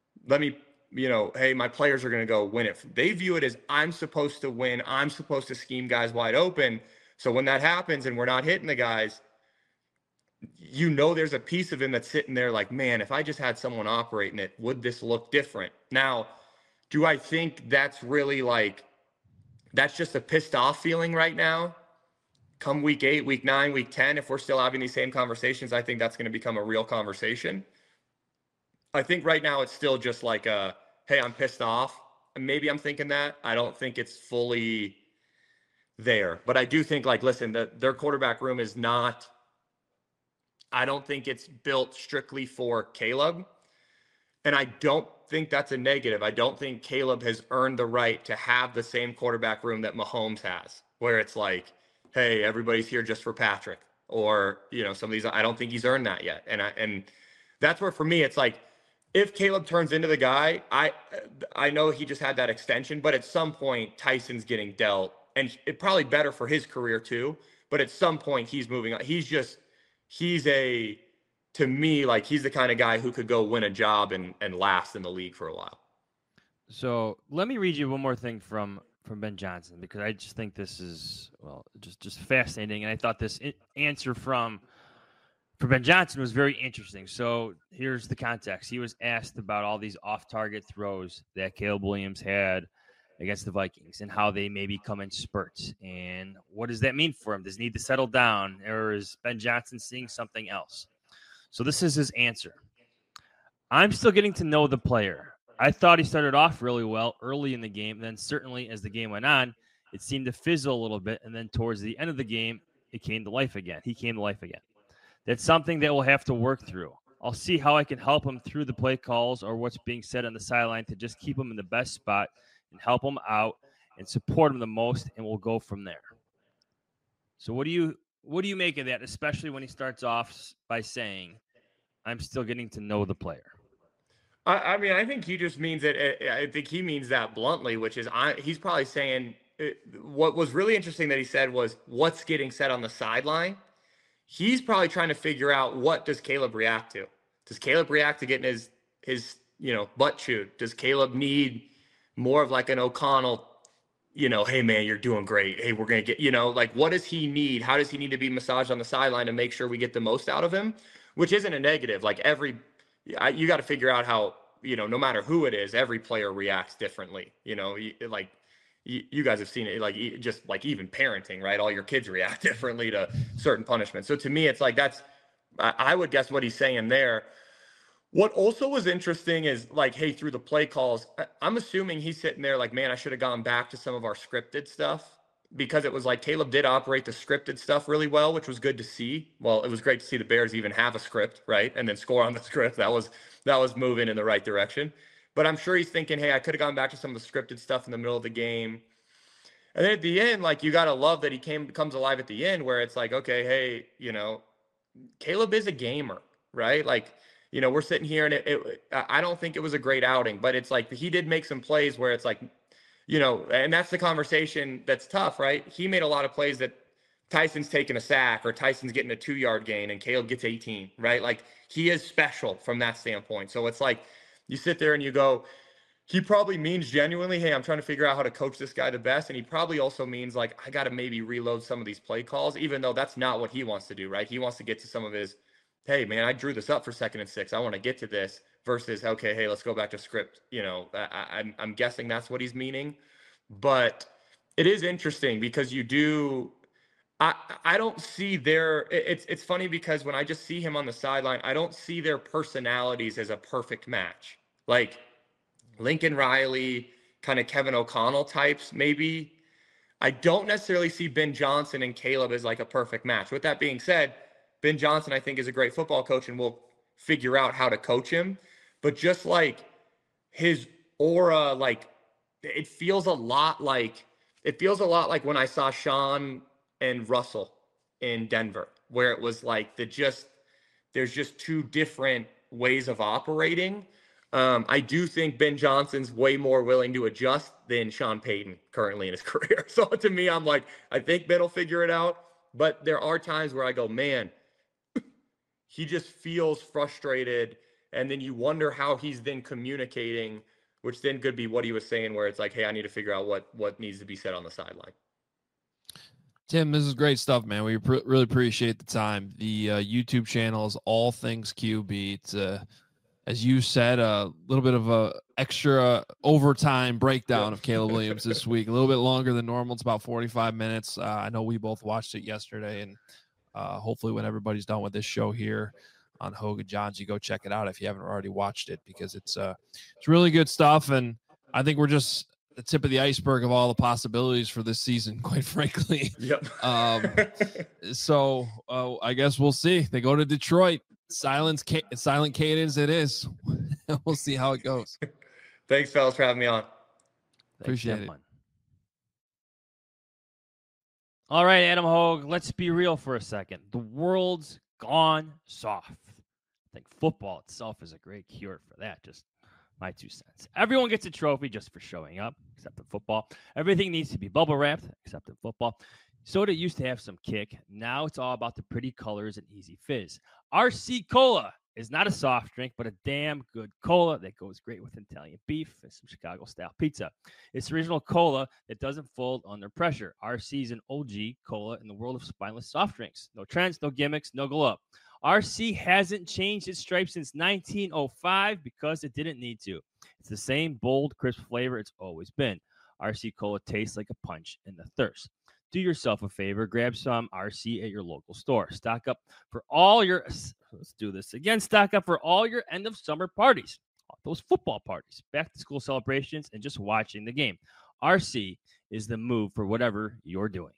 hey, my players are going to go win it. They view it as, I'm supposed to win. I'm supposed to scheme guys wide open. So when that happens and we're not hitting the guys, there's a piece of him that's sitting there like, man, if I just had someone operating it, would this look different? Now, do I think that's really like, that's just a pissed off feeling right now? Come week 8, week 9, week 10, if we're still having these same conversations, I think that's going to become a real conversation. I think right now it's still just like hey, I'm pissed off. And maybe I'm thinking that. I don't think it's fully there. But I do think, like, listen, their quarterback room is not – I don't think it's built strictly for Caleb. And I don't think that's a negative. I don't think Caleb has earned the right to have the same quarterback room that Mahomes has, where it's like, hey, everybody's here just for Patrick, or, you know, some of these, I don't think he's earned that yet. And that's where, for me, it's like, if Caleb turns into the guy, I know he just had that extension, but at some point Tyson's getting dealt, and it probably better for his career too. But at some point he's moving on. To me, like, he's the kind of guy who could go win a job and last in the league for a while. So let me read you one more thing from Ben Johnson, because I just think this is, well, just fascinating. And I thought this answer for Ben Johnson was very interesting. So here's the context. He was asked about all these off-target throws that Caleb Williams had against the Vikings and how they maybe come in spurts. And what does that mean for him? Does he need to settle down, or is Ben Johnson seeing something else? So this is his answer. I'm still getting to know the player. I thought he started off really well early in the game. Then certainly as the game went on, it seemed to fizzle a little bit. And then towards the end of the game, it came to life again. He came to life again. That's something that we'll have to work through. I'll see how I can help him through the play calls or what's being said on the sideline to just keep him in the best spot and help him out and support him the most, and we'll go from there. So what do you make of that, especially when he starts off by saying, I'm still getting to know the player? I mean, I think he just means it. I think he means that bluntly, which is he's probably saying what was really interesting that he said was what's getting said on the sideline. He's probably trying to figure out, what does Caleb react to? Does Caleb react to getting his butt chewed? Does Caleb need more of like an O'Connell, hey man, you're doing great. Hey, we're going to get, like, what does he need? How does he need to be massaged on the sideline to make sure we get the most out of him? Which isn't a negative. Like, you got to figure out how, no matter who it is, every player reacts differently. You guys have seen it, like, just like even parenting, right? All your kids react differently to certain punishments. So to me, it's like, I would guess what he's saying there. What also was interesting is, like, hey, through the play calls, I'm assuming he's sitting there like, man, I should have gone back to some of our scripted stuff, because it was like Caleb did operate the scripted stuff really well, which was good to see. Well, it was great to see the Bears even have a script, right? And then score on the script. That was moving in the right direction. But I'm sure he's thinking, hey, I could have gone back to some of the scripted stuff in the middle of the game. And then at the end, like, you got to love that he comes alive at the end, where it's like, okay, hey, Caleb is a gamer, right? Like, we're sitting here and I don't think it was a great outing, but it's like he did make some plays where it's like, and that's the conversation that's tough, right? He made a lot of plays that Tyson's taking a sack or Tyson's getting a 2-yard gain and Caleb gets 18, right? Like, he is special from that standpoint. So it's like, you sit there and you go, he probably means genuinely, hey, I'm trying to figure out how to coach this guy the best. And he probably also means, like, I got to maybe reload some of these play calls, even though that's not what he wants to do, right? He wants to get to some of his, hey, man, I drew this up for 2nd and 6. I want to get to this, versus, okay, hey, let's go back to script. I'm guessing that's what he's meaning. But it is interesting because I don't see it's funny because when I just see him on the sideline, I don't see their personalities as a perfect match. Like Lincoln Riley, kind of Kevin O'Connell types, maybe. I don't necessarily see Ben Johnson and Caleb as like a perfect match. With that being said, Ben Johnson, I think, is a great football coach, and we'll figure out how to coach him. But just like his aura, like, it feels a lot like when I saw Sean and Russell in Denver, where it was like there's just two different ways of operating. I do think Ben Johnson's way more willing to adjust than Sean Payton currently in his career. So to me, I'm like, I think Ben will figure it out. But there are times where I go, man, he just feels frustrated. And then you wonder how he's then communicating, which then could be what he was saying, where it's like, hey, I need to figure out what needs to be said on the sideline. Tim, this is great stuff, man. We really appreciate the time. The YouTube channel is All Things QB. It's, as you said, a little bit of a extra overtime breakdown of Caleb Williams this week. A little bit longer than normal. It's about 45 minutes. I know we both watched it yesterday, and hopefully when everybody's done with this show here on Hogue and Johns, you go check it out if you haven't already watched it, because it's really good stuff. And I think we're just the tip of the iceberg of all the possibilities for this season, quite frankly. Yep. So I guess we'll see. They go to Detroit. Silent cadence it is. We'll see how it goes. Thanks, fellas, for having me on. Appreciate it. All right, Adam Hogue, let's be real for a second. The world's gone soft. I think football itself is a great cure for that. Just my 2 cents. Everyone gets a trophy just for showing up, except in football. Everything needs to be bubble wrapped, except in football. Soda used to have some kick. Now it's all about the pretty colors and easy fizz. RC Cola is not a soft drink, but a damn good cola that goes great with Italian beef and some Chicago-style pizza. It's original cola that doesn't fold under pressure. RC is an OG cola in the world of spineless soft drinks. No trends, no gimmicks, no glow up. RC hasn't changed its stripe since 1905 because it didn't need to. It's the same bold, crisp flavor it's always been. RC Cola tastes like a punch in the thirst. Do yourself a favor, grab some RC at your local store. Stock up for all your, let's do this again, stock up for all your end of summer parties, those football parties, back to school celebrations, and just watching the game. RC is the move for whatever you're doing.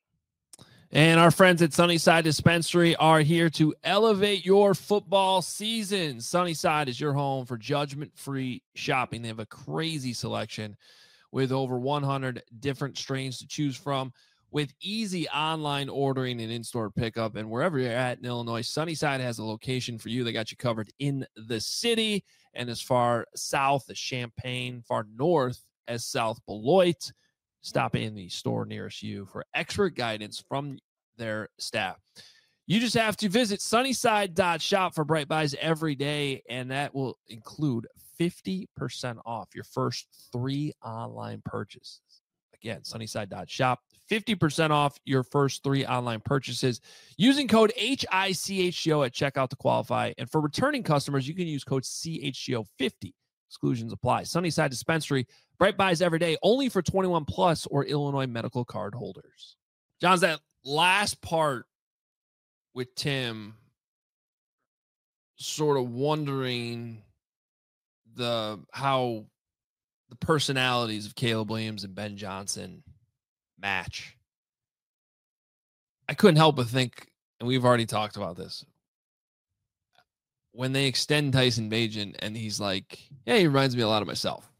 And our friends at Sunnyside Dispensary are here to elevate your football season. Sunnyside is your home for judgment-free shopping. They have a crazy selection with over 100 different strains to choose from, with easy online ordering and in-store pickup. And wherever you're at in Illinois, Sunnyside has a location for you. They got you covered in the city and as far south as Champaign, far north as South Beloit. Stop in the store nearest you for expert guidance from their staff. You just have to visit sunnyside.shop for Bright Buys every day, and that will include 50% off your first 3 online purchases. Again, sunnyside.shop, 50% off your first 3 online purchases using code HICHGO at checkout to qualify. And for returning customers, you can use code CHGO50. Exclusions apply. Sunnyside Dispensary, Bright Buys every day, only for 21 plus or Illinois medical card holders. John's that last part with Tim sort of wondering how the personalities of Caleb Williams and Ben Johnson match. I couldn't help but think, and we've already talked about this, when they extend Tyson Bagent and he's like, yeah, he reminds me a lot of myself.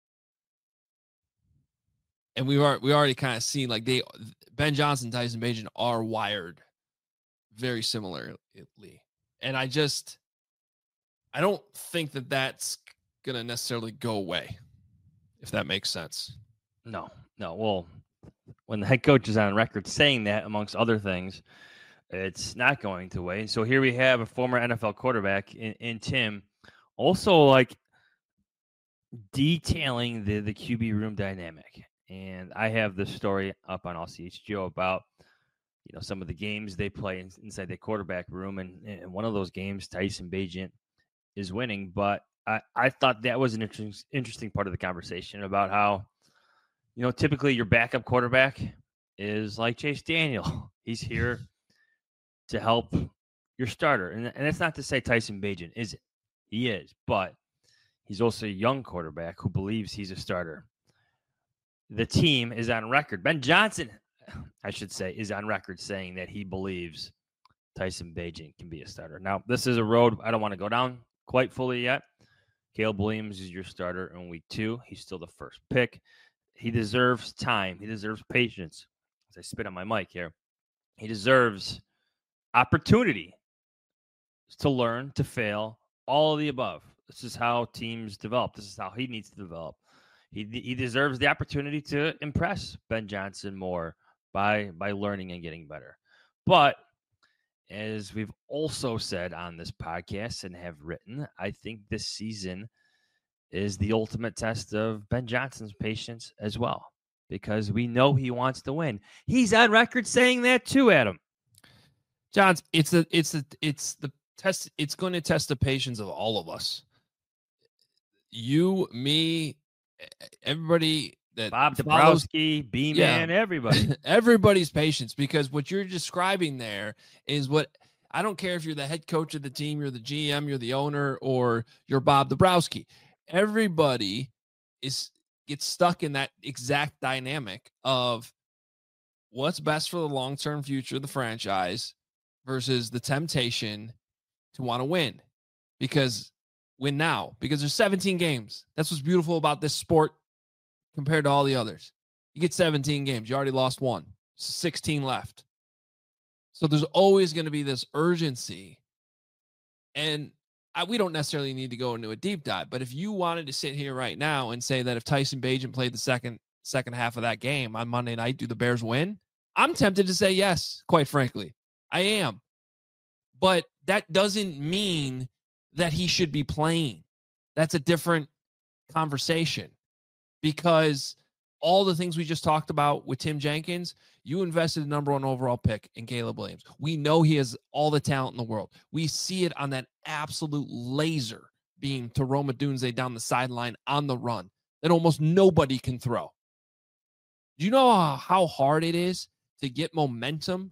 And we already kind of seen like Ben Johnson, Tyson Bagent are wired very similarly. And I don't think that that's going to necessarily go away, if that makes sense. No. Well, when the head coach is on record saying that, amongst other things, it's not going to wait. So here we have a former NFL quarterback in Tim, also like detailing the QB room dynamic. And I have this story up on LCHGO about, some of the games they play inside the quarterback room. And in one of those games, Tyson Bagent is winning. But I thought that was an interesting part of the conversation about how, typically your backup quarterback is like Chase Daniel. He's here to help your starter. And that's not to say Tyson Bagent isn't. He is. But he's also a young quarterback who believes he's a starter. The team is on record. Ben Johnson, I should say, is on record saying that he believes Tyson Bagent can be a starter. Now, this is a road I don't want to go down quite fully yet. Caleb Williams is your starter in week 2. He's still the first pick. He deserves time. He deserves patience. As I spit on my mic here, he deserves opportunity to learn, to fail, all of the above. This is how teams develop. This is how he needs to develop. He deserves the opportunity to impress Ben Johnson more by learning and getting better. But as we've also said on this podcast and have written, I think this season is the ultimate test of Ben Johnson's patience as well, because we know he wants to win. He's on record saying that too, Adam. Johns, it's the test. It's going to test the patience of all of us. You, me, everybody. That Bob Dabrowski, B-Man, everybody. Everybody's patience, because what you're describing there is what I don't care if you're the head coach of the team, you're the GM, you're the owner, or you're Bob Dabrowski. Everybody gets stuck in that exact dynamic of what's best for the long-term future of the franchise versus the temptation to want to win. Because win now because there's 17 games. That's what's beautiful about this sport compared to all the others. You get 17 games. You already lost one. 16 left. So there's always going to be this urgency. And we don't necessarily need to go into a deep dive, but if you wanted to sit here right now and say that if Tyson Bagent played the second half of that game on Monday night, do the Bears win? I'm tempted to say yes, quite frankly. I am. But that doesn't mean that he should be playing. That's a different conversation because all the things we just talked about with Tim Jenkins, you invested the number 1 overall pick in Caleb Williams. We know he has all the talent in the world. We see it on that absolute laser beam to Rome Odunze down the sideline on the run that almost nobody can throw. Do you know how hard it is to get momentum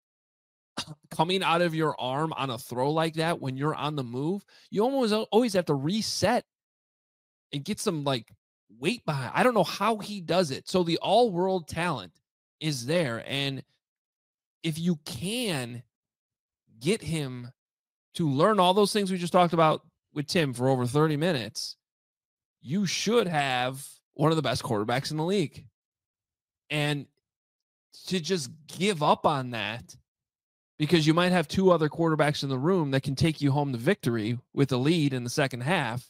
coming out of your arm on a throw like that when you're on the move? You always have to reset and get some weight behind. I don't know how he does it. So the all-world talent is there. And if you can get him to learn all those things we just talked about with Tim for over 30 minutes, you should have one of the best quarterbacks in the league. And to just give up on that because you might have 2 other quarterbacks in the room that can take you home to victory with a lead in the second half,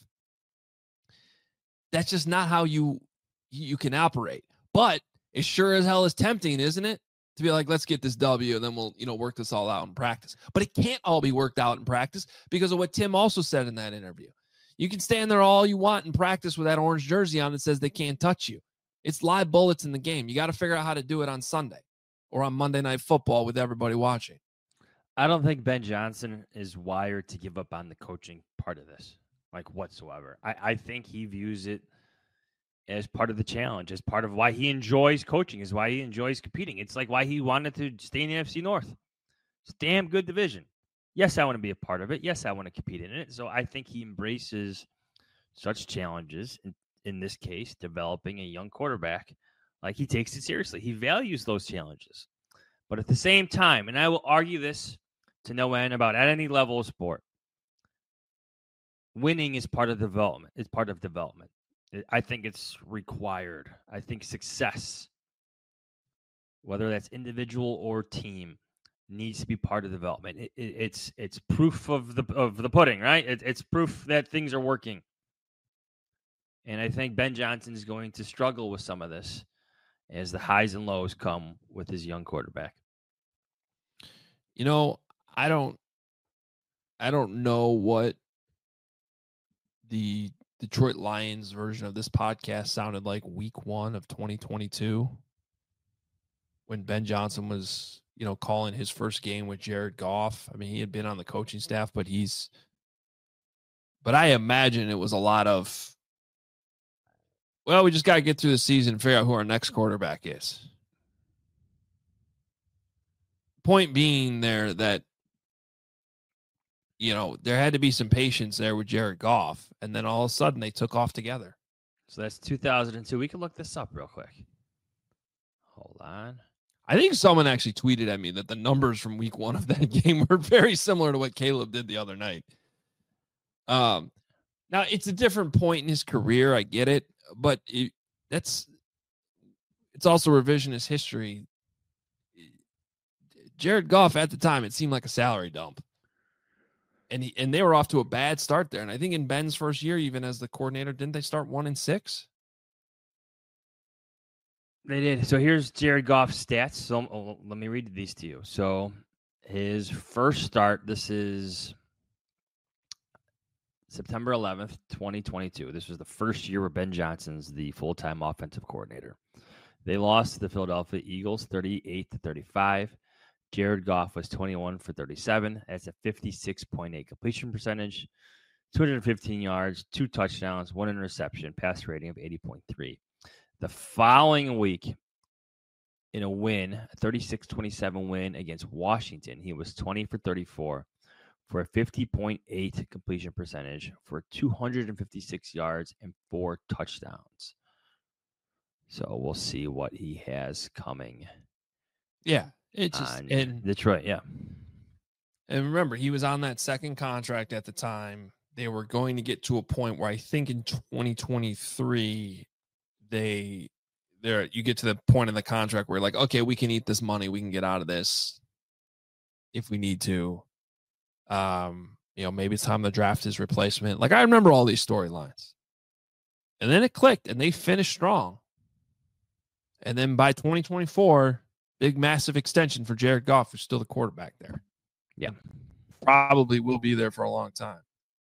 that's just not how you can operate. But it sure as hell is tempting, isn't it? To be like, let's get this W and then we'll, work this all out in practice. But it can't all be worked out in practice because of what Tim also said in that interview. You can stand there all you want in practice with that orange jersey on that says they can't touch you. It's live bullets in the game. You got to figure out how to do it on Sunday or on Monday Night Football with everybody watching. I don't think Ben Johnson is wired to give up on the coaching part of this, whatsoever. I think he views it as part of the challenge, as part of why he enjoys coaching, is why he enjoys competing. It's like why he wanted to stay in the NFC North. It's a damn good division. Yes, I want to be a part of it. Yes, I want to compete in it. So I think he embraces such challenges, in this case, developing a young quarterback. He takes it seriously. He values those challenges. But at the same time, and I will argue this to no end about at any level of sport, winning is part of development. It's part of development. I think it's required. I think success, whether that's individual or team, needs to be part of development. It's proof of the pudding, right? It's proof that things are working. And I think Ben Johnson is going to struggle with some of this as the highs and lows come with his young quarterback. I don't know what the Detroit Lions version of this podcast sounded like week 1 of 2022 when Ben Johnson was, calling his first game with Jared Goff. I mean, he had been on the coaching staff, but I imagine it was a lot of, well, we just got to get through the season and figure out who our next quarterback is. Point being there that, there had to be some patience there with Jared Goff, and then all of a sudden they took off together. So that's 2002. We can look this up real quick. Hold on. I think someone actually tweeted at me that the numbers from week 1 of that game were very similar to what Caleb did the other night. Now, it's a different point in his career. I get it, but it's also revisionist history. Jared Goff at the time, it seemed like a salary dump. And they were off to a bad start there. And I think in Ben's first year, even as the coordinator, didn't they start 1-6? They did. So here's Jared Goff's stats. So let me read these to you. So his first start, this is September 11th, 2022. This was the first year where Ben Johnson's the full-time offensive coordinator. They lost to the Philadelphia Eagles 38-35. Jared Goff was 21 for 37. That's a 56.8 completion percentage, 215 yards, 2 touchdowns, 1 interception, pass rating of 80.3. The following week, in a win, a 36-27 win against Washington, he was 20 for 34 for a 50.8 completion percentage for 256 yards and 4 touchdowns. So we'll see what he has coming. Yeah. It's just in Detroit, yeah. And remember, he was on that second contract at the time they were going to get to a point where I think in 2023 you get to the point in the contract where like, okay, we can eat this money, we can get out of this if we need to. Maybe it's time to draft his replacement. Like, I remember all these storylines. And then it clicked and they finished strong. And then by 2024, big massive extension for Jared Goff, who's still the quarterback there. Yeah. Probably will be there for a long time.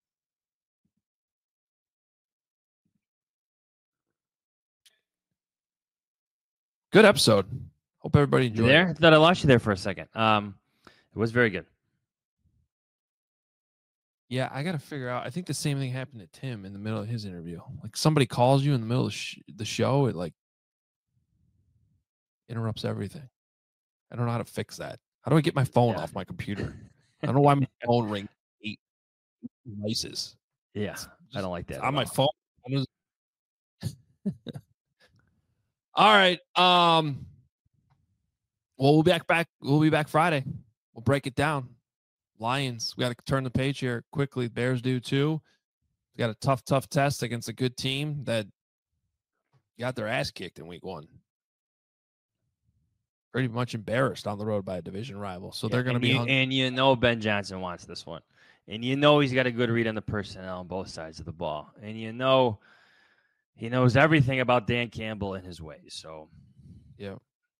Good episode. Hope everybody enjoyed it. I thought I lost you there for a second. It was very good. Yeah, I got to figure out. I think the same thing happened to Tim in the middle of his interview. Like somebody calls you in the middle of the show, it like interrupts everything. I don't know how to fix that. How do I get my phone off my computer? I don't know why my phone rings 8 devices. Yeah, I don't like that. On my phone. All right. Well, we'll be back. We'll be back Friday. We'll break it down. Lions. We got to turn the page here quickly. Bears do too. We got a tough test against a good team that got their ass kicked in week 1. Pretty much embarrassed on the road by a division rival. So they're going to be hungry. And Ben Johnson wants this one. And he's got a good read on the personnel on both sides of the ball. And he knows everything about Dan Campbell and his ways. So, yeah.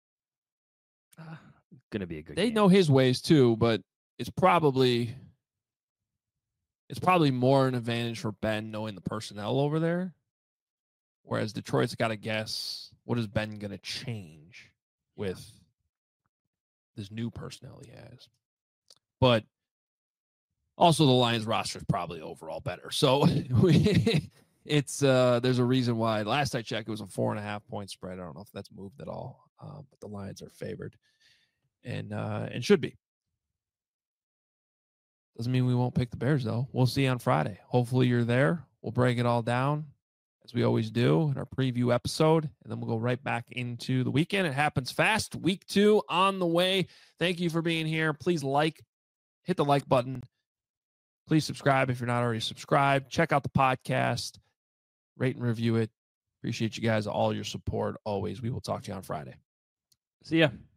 Going to be a good game. They game. know his ways too, but it's probably more an advantage for Ben knowing the personnel over there. Whereas Detroit's got to guess, what is Ben going to change with this new personnel he has? But also the Lions roster is probably overall better. So it's there's a reason why last I checked it was a 4.5 point spread. I don't know if that's moved at all, but the Lions are favored and should be. Doesn't mean we won't pick the Bears though. We'll see on Friday. Hopefully you're there. We'll break it all down as we always do in our preview episode, and then we'll go right back into the weekend. It happens fast. Week 2 on the way. Thank you for being here. Please hit the like button. Please subscribe if you're not already subscribed. Check out the podcast. Rate and review it. Appreciate you guys, all your support always. We will talk to you on Friday. See ya.